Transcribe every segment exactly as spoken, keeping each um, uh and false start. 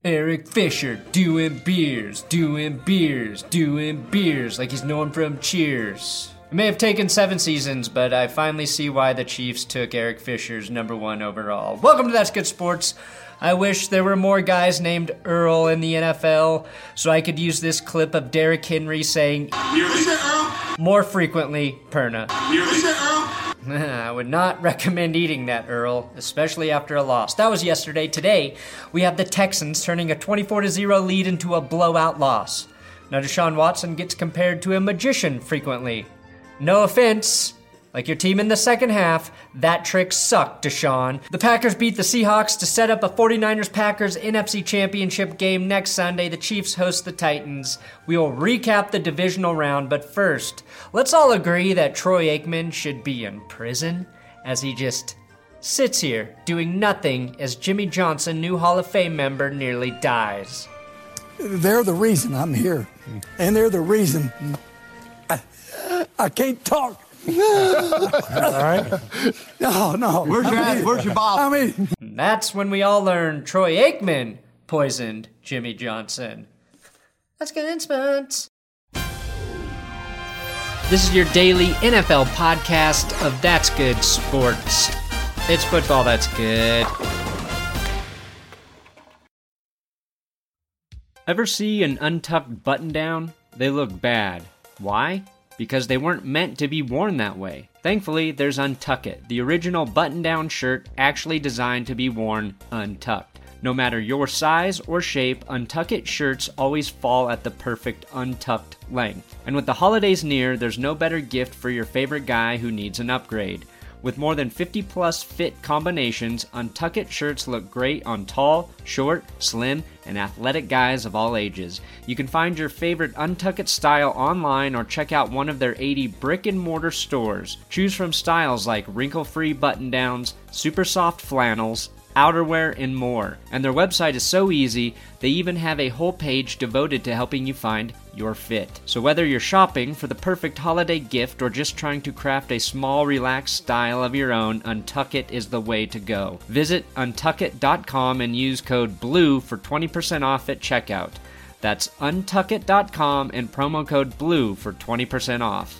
Eric Fisher doing beers, doing beers, doing beers, like he's known from Cheers. It may have taken seven seasons, but I finally see why the Chiefs took Eric Fisher's number one overall. Welcome to That's Good Sports. I wish there were more guys named Earl in the N F L, so I could use this clip of Derrick Henry saying more frequently, Perna. I would not recommend eating that, Earl, especially after a loss. That was yesterday. Today, we have the Texans turning a twenty-four to zero lead into a blowout loss. Now, Deshaun Watson gets compared to a magician frequently. No offense, like your team in the second half, that trick sucked, Deshaun. The Packers beat the Seahawks to set up a 49ers-Packers N F C Championship game next Sunday. The Chiefs host the Titans. We will recap the divisional round, but first, let's all agree that Troy Aikman should be in prison as he just sits here doing nothing as Jimmy Johnson, new Hall of Fame member, nearly dies. They're the reason I'm here, and they're the reason I, I can't talk. All right. No, no. Where's your I mean, Where's your boss? I mean, that's when we all learned Troy Aikman poisoned Jimmy Johnson. That's good sports. This is your daily N F L podcast of That's Good Sports. It's football that's good. Ever see an untucked button down? They look bad. Why? Because they weren't meant to be worn that way. Thankfully, there's Untuck It, the original button-down shirt actually designed to be worn untucked. No matter your size or shape, Untuck It shirts always fall at the perfect untucked length. And with the holidays near, there's no better gift for your favorite guy who needs an upgrade. With more than fifty plus fit combinations, Untuck It shirts look great on tall, short, slim, and athletic guys of all ages. You can find your favorite Untuck It style online or check out one of their eighty brick-and-mortar stores. Choose from styles like wrinkle-free button-downs, super soft flannels, outerwear, and more. And their website is so easy, they even have a whole page devoted to helping you find your fit. So whether you're shopping for the perfect holiday gift or just trying to craft a small, relaxed style of your own, Untuck It is the way to go. Visit untuck it dot com and use code BLUE for twenty percent off at checkout. That's untuck it dot com and promo code BLUE for twenty percent off.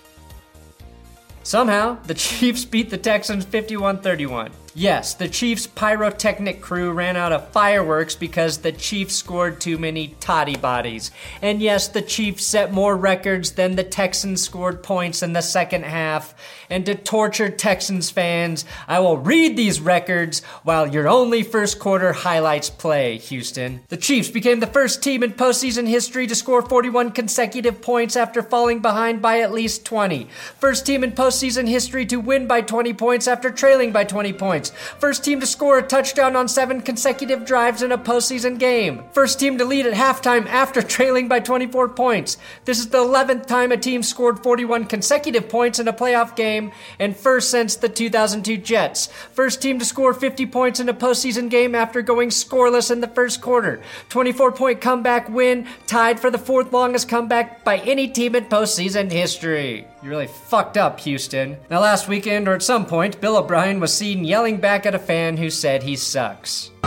Somehow, the Chiefs beat the Texans fifty-one thirty-one. Yes, the Chiefs' pyrotechnic crew ran out of fireworks because the Chiefs scored too many toddy bodies. And yes, the Chiefs set more records than the Texans scored points in the second half. And to torture Texans fans, I will read these records while your only first quarter highlights play, Houston. The Chiefs became the first team in postseason history to score forty-one consecutive points after falling behind by at least twenty. First team in postseason history to win by twenty points after trailing by twenty points. First team to score a touchdown on seven consecutive drives in a postseason game. First team to lead at halftime after trailing by twenty-four points. This is the eleventh time a team scored forty-one consecutive points in a playoff game, and first since the two thousand two Jets. First team to score fifty points in a postseason game after going scoreless in the first quarter. twenty-four point comeback win, tied for the fourth longest comeback by any team in postseason history. You really fucked up, Houston. Now last weekend, or at some point, Bill O'Brien was seen yelling back at a fan who said he sucks. You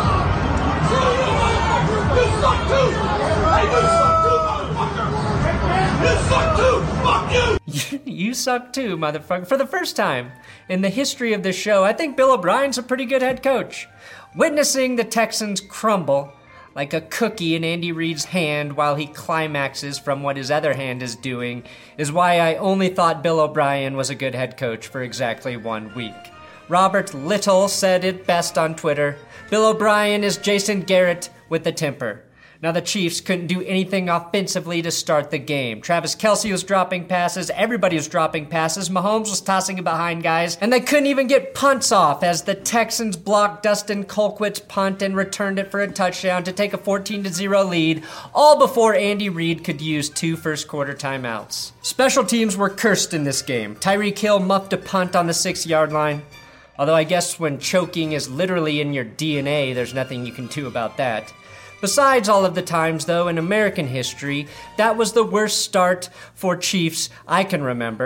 suck too! Hey, you suck too, motherfucker! You suck too! Fuck you! You suck too, motherfucker. For the first time in the history of this show, I think Bill O'Brien's a pretty good head coach. Witnessing the Texans crumble like a cookie in Andy Reid's hand while he climaxes from what his other hand is doing is why I only thought Bill O'Brien was a good head coach for exactly one week. Robert Little said it best on Twitter. Bill O'Brien is Jason Garrett with the temper. Now the Chiefs couldn't do anything offensively to start the game. Travis Kelce was dropping passes, everybody was dropping passes, Mahomes was tossing it behind guys, and they couldn't even get punts off as the Texans blocked Dustin Colquitt's punt and returned it for a touchdown to take a fourteen to zero lead, all before Andy Reid could use two first quarter timeouts. Special teams were cursed in this game. Tyreek Hill muffed a punt on the six-yard line. Although I guess when choking is literally in your D N A, there's nothing you can do about that. Besides all of the times, though, in American history, that was the worst start for Chiefs I can remember.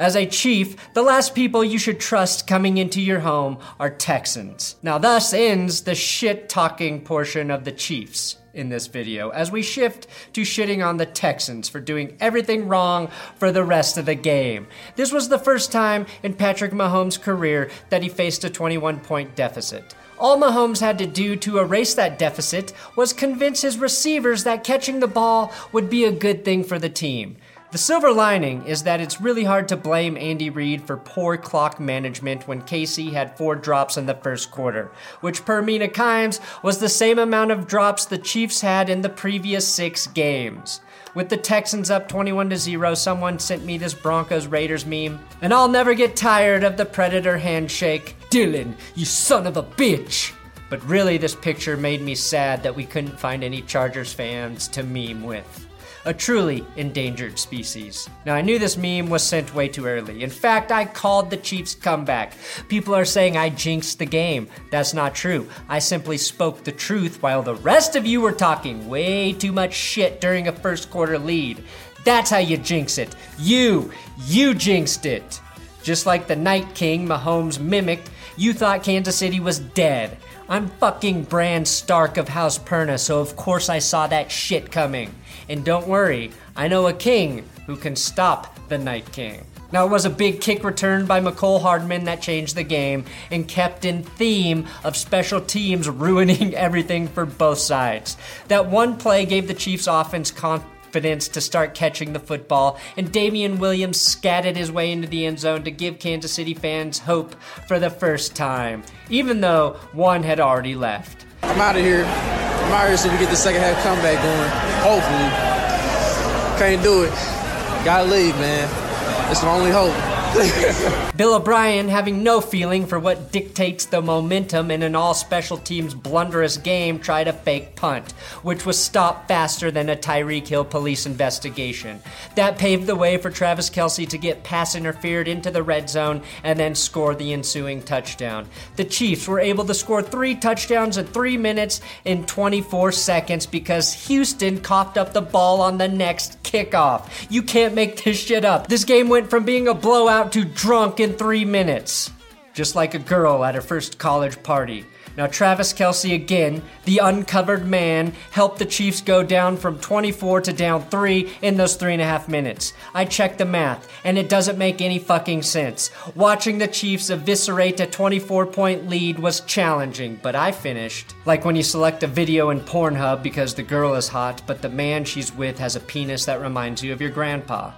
As a Chief, the last people you should trust coming into your home are Texans. Now thus ends the shit-talking portion of the Chiefs in this video, as we shift to shitting on the Texans for doing everything wrong for the rest of the game. This was the first time in Patrick Mahomes' career that he faced a twenty-one point deficit. All Mahomes had to do to erase that deficit was convince his receivers that catching the ball would be a good thing for the team. The silver lining is that it's really hard to blame Andy Reid for poor clock management when K C had four drops in the first quarter, which per Mina Kimes was the same amount of drops the Chiefs had in the previous six games. With the Texans up twenty-one to zero, someone sent me this Broncos Raiders meme, and I'll never get tired of the Predator handshake. Dylan, you son of a bitch! But really, this picture made me sad that we couldn't find any Chargers fans to meme with. A truly endangered species. Now, I knew this meme was sent way too early. In fact, I called the Chiefs' comeback. People are saying I jinxed the game. That's not true. I simply spoke the truth while the rest of you were talking way too much shit during a first quarter lead. That's how you jinx it. You, you jinxed it. Just like the Night King Mahomes mimicked, you thought Kansas City was dead. I'm fucking Bran Stark of House Perna, so of course I saw that shit coming. And don't worry, I know a king who can stop the Night King. Now, it was a big kick return by McCole Hardman that changed the game and kept in theme of special teams ruining everything for both sides. That one play gave the Chiefs offense confidence to start catching the football, and Damian Williams scattered his way into the end zone to give Kansas City fans hope for the first time, even though one had already left. I'm out of here. I'm out here so we get the second half comeback going. Hopefully. Can't do it. Gotta leave, man. It's the only hope. Bill O'Brien, having no feeling for what dictates the momentum in an all-special teams blunderous game, tried a fake punt, which was stopped faster than a Tyreek Hill police investigation. That paved the way for Travis Kelce to get pass interfered into the red zone and then score the ensuing touchdown. The Chiefs were able to score three touchdowns in three minutes and twenty-four seconds because Houston coughed up the ball on the next kickoff. You can't make this shit up. This game went from being a blowout to drunk in three minutes. Just like a girl at her first college party. Now Travis Kelce again, the uncovered man, helped the Chiefs go down from twenty-four to down three in those three and a half minutes. I checked the math, and it doesn't make any fucking sense. Watching the Chiefs eviscerate a twenty-four point lead was challenging, but I finished. Like when you select a video in Pornhub because the girl is hot, but the man she's with has a penis that reminds you of your grandpa.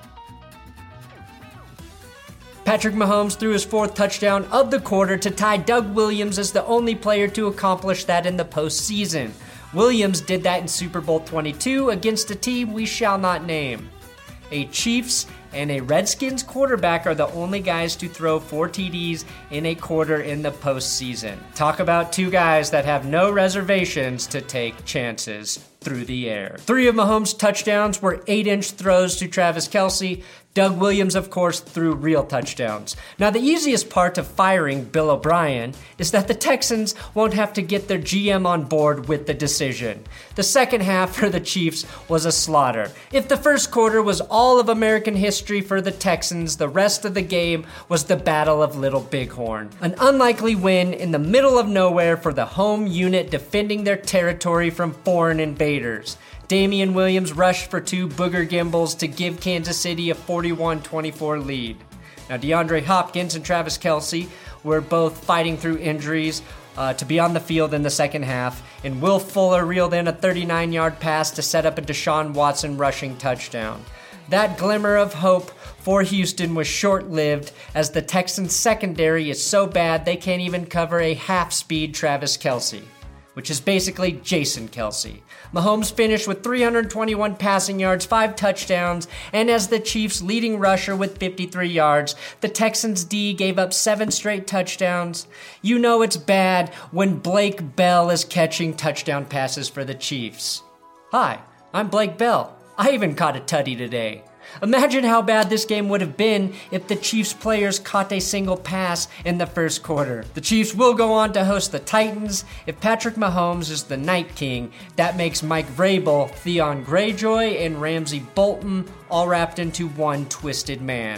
Patrick Mahomes threw his fourth touchdown of the quarter to tie Doug Williams as the only player to accomplish that in the postseason. Williams did that in Super Bowl twenty-two against a team we shall not name. A Chiefs and a Redskins quarterback are the only guys to throw four T Ds in a quarter in the postseason. Talk about two guys that have no reservations to take chances through the air. Three of Mahomes' touchdowns were eight-inch throws to Travis Kelce. Doug Williams, of course, threw real touchdowns. Now, the easiest part of firing Bill O'Brien is that the Texans won't have to get their G M on board with the decision. The second half for the Chiefs was a slaughter. If the first quarter was all of American history for the Texans, the rest of the game was the Battle of Little Bighorn. An unlikely win in the middle of nowhere for the home unit defending their territory from foreign invaders. Damian Williams rushed for two booger gimbals to give Kansas City a forty-one twenty-four lead. Now, DeAndre Hopkins and Travis Kelce were both fighting through injuries uh, to be on the field in the second half, and Will Fuller reeled in a thirty-nine yard pass to set up a Deshaun Watson rushing touchdown. That glimmer of hope for Houston was short-lived, as the Texans' secondary is so bad they can't even cover a half-speed Travis Kelce, which is basically Jason Kelce. Mahomes finished with three hundred twenty-one passing yards, five touchdowns, and as the Chiefs' leading rusher with fifty-three yards, the Texans' D gave up seven straight touchdowns. You know it's bad when Blake Bell is catching touchdown passes for the Chiefs. Hi, I'm Blake Bell. I even caught a tutty today. Imagine how bad this game would have been if the Chiefs players caught a single pass in the first quarter. The Chiefs will go on to host the Titans. If Patrick Mahomes is the Night King, that makes Mike Vrabel, Theon Greyjoy, and Ramsey Bolton all wrapped into one twisted man.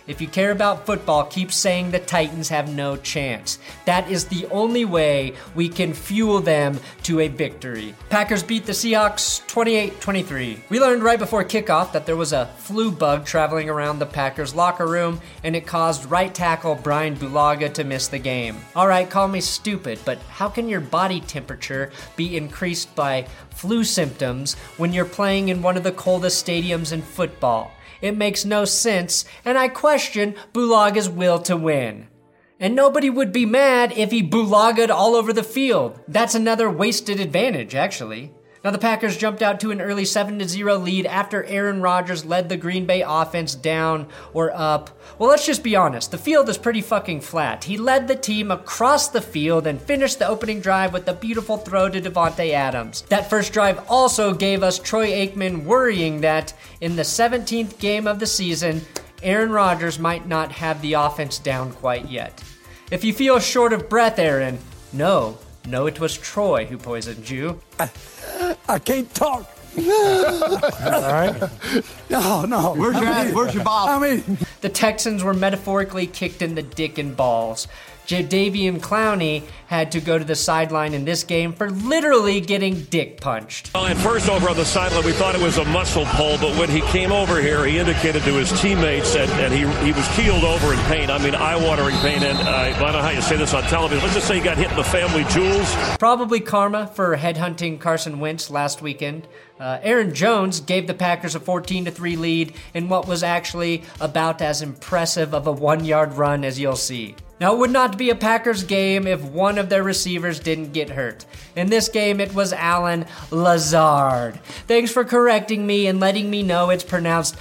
If you care about football, keep saying the Titans have no chance. That is the only way we can fuel them to a victory. Packers beat the Seahawks twenty-eight twenty-three. We learned right before kickoff that there was a flu bug traveling around the Packers locker room, and it caused right tackle Brian Bulaga to miss the game. Alright, call me stupid, but how can your body temperature be increased by flu symptoms when you're playing in one of the coldest stadiums in football? It makes no sense, and I question Bulaga's will to win. And nobody would be mad if he bulaga'd all over the field. That's another wasted advantage, actually. Now the Packers jumped out to an early seven to zero lead after Aaron Rodgers led the Green Bay offense down or up. Well, let's just be honest. The field is pretty fucking flat. He led the team across the field and finished the opening drive with a beautiful throw to Davante Adams. That first drive also gave us Troy Aikman worrying that in the seventeenth game of the season, Aaron Rodgers might not have the offense down quite yet. If you feel short of breath, Aaron, no, no, it was Troy who poisoned you. I, I can't talk. All right. No, no. Where's your, I mean, where's your ball? I mean, The Texans were metaphorically kicked in the dick and balls. Jadeveon Clowney had to go to the sideline in this game for literally getting dick punched. Well, at first over on the sideline, we thought it was a muscle pull, but when he came over here, he indicated to his teammates that, and he he was keeled over in pain. I mean, eye-watering pain, and uh, I don't know how you say this on television. Let's just say he got hit in the family jewels. Probably karma for headhunting Carson Wentz last weekend. Uh, Aaron Jones gave the Packers a fourteen to three lead in what was actually about as impressive of a one-yard run as you'll see. Now, it would not be a Packers game if one of their receivers didn't get hurt. In this game, it was Allen Lazard. Thanks for correcting me and letting me know it's pronounced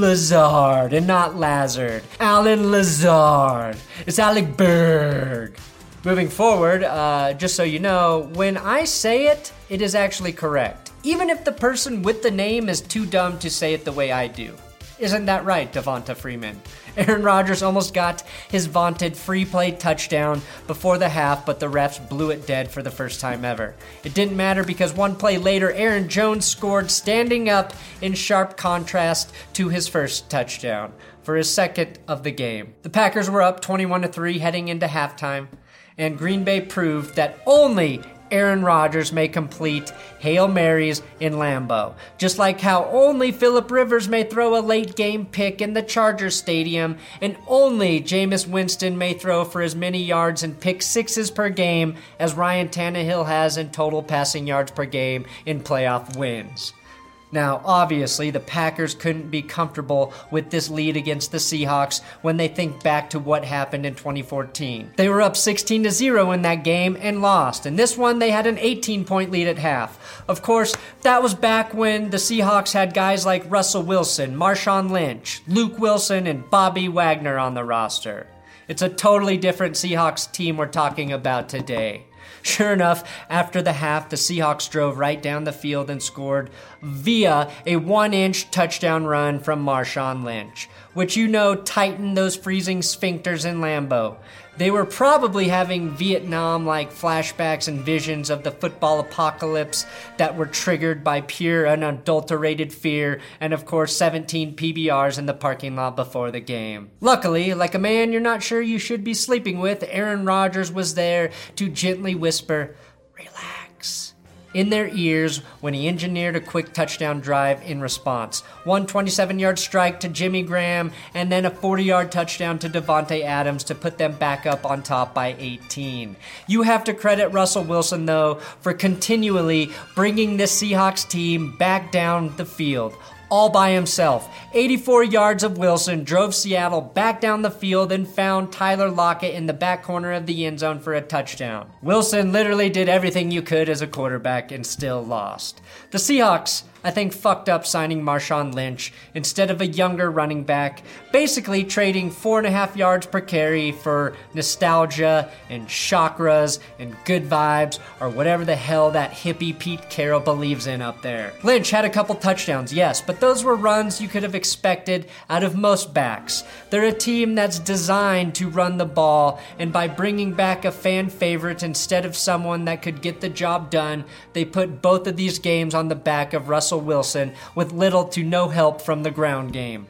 Lazard and not Lazard. Allen Lazard. It's Alec Berg. Moving forward, uh, just so you know, when I say it, it is actually correct. Even if the person with the name is too dumb to say it the way I do. Isn't that right, Devonta Freeman? Aaron Rodgers almost got his vaunted free play touchdown before the half, but the refs blew it dead for the first time ever. It didn't matter because one play later, Aaron Jones scored standing up in sharp contrast to his first touchdown for his second of the game. The Packers were up twenty-one to three heading into halftime, and Green Bay proved that only Aaron Rodgers may complete Hail Marys in Lambeau, just like how only Phillip Rivers may throw a late-game pick in the Chargers Stadium, and only Jameis Winston may throw for as many yards and pick sixes per game as Ryan Tannehill has in total passing yards per game in playoff wins. Now, obviously, the Packers couldn't be comfortable with this lead against the Seahawks when they think back to what happened in twenty fourteen. They were up sixteen to zero in that game and lost. In this one, they had an eighteen-point lead at half. Of course, that was back when the Seahawks had guys like Russell Wilson, Marshawn Lynch, Luke Wilson, and Bobby Wagner on the roster. It's a totally different Seahawks team we're talking about today. Sure enough, after the half, the Seahawks drove right down the field and scored via a one-inch touchdown run from Marshawn Lynch, which you know tightened those freezing sphincters in Lambeau. They were probably having Vietnam-like flashbacks and visions of the football apocalypse that were triggered by pure unadulterated fear and, of course, seventeen P B Rs in the parking lot before the game. Luckily, like a man you're not sure you should be sleeping with, Aaron Rodgers was there to gently whisper, "Relax," in their ears when he engineered a quick touchdown drive in response. One twenty-seven-yard strike to Jimmy Graham, and then a forty-yard touchdown to Davante Adams to put them back up on top by eighteen. You have to credit Russell Wilson, though, for continually bringing this Seahawks team back down the field. All by himself. eighty-four yards of Wilson drove Seattle back down the field and found Tyler Lockett in the back corner of the end zone for a touchdown. Wilson literally did everything you could as a quarterback and still lost. The Seahawks, I think, fucked up signing Marshawn Lynch instead of a younger running back, basically trading four and a half yards per carry for nostalgia and chakras and good vibes or whatever the hell that hippie Pete Carroll believes in up there. Lynch had a couple touchdowns, yes, but those were runs you could have expected out of most backs. They're a team that's designed to run the ball, and by bringing back a fan favorite instead of someone that could get the job done, they put both of these games on the back of Russell Wilson with little to no help from the ground game.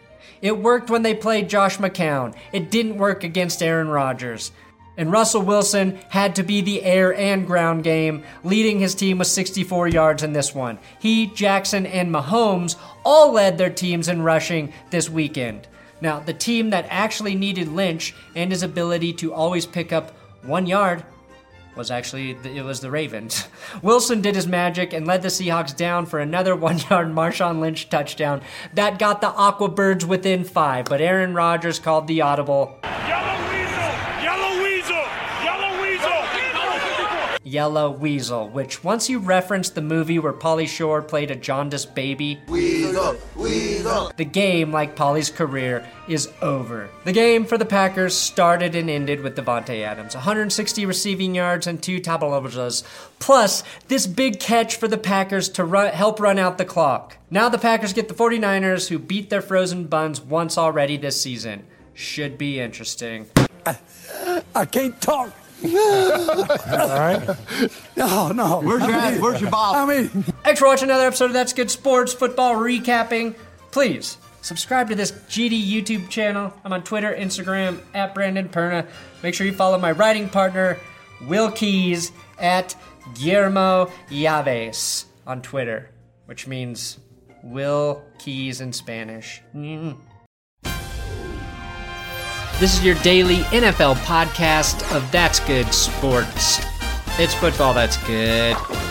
It worked when they played Josh McCown. It didn't work against Aaron Rodgers. And Russell Wilson had to be the air and ground game, leading his team with sixty-four yards in this one. He, Jackson, and Mahomes all led their teams in rushing this weekend. Now, the team that actually needed Lynch and his ability to always pick up one yard was actually, it was the Ravens. Wilson did his magic and led the Seahawks down for another one-yard Marshawn Lynch touchdown that got the Aqua Birds within five, but Aaron Rodgers called the audible. Yellow Weasel! Yellow Weasel! Yellow Weasel! Yellow Weasel, which once you reference the movie where Pauly Shore played a jaundiced baby, Weasel, Weasel. The game, like Pauly's career, is over. The game for the Packers started and ended with Davante Adams. one hundred sixty receiving yards and two tablets, plus this big catch for the Packers to run, help run out the clock. Now the Packers get the 49ers, who beat their frozen buns once already this season. Should be interesting. I, I can't talk. All right. No, no. Where's your ass? Where's your ball? I mean, Thanks for watching another episode of That's Good Sports Football Recapping. Please subscribe to this G D YouTube channel. I'm on Twitter, Instagram, at Brandon Perna. Make sure you follow my writing partner, Will Keys, at Guillermo Yaves on Twitter, which means Will Keys in Spanish. Mm. This is your daily N F L podcast of That's Good Sports. It's football that's good.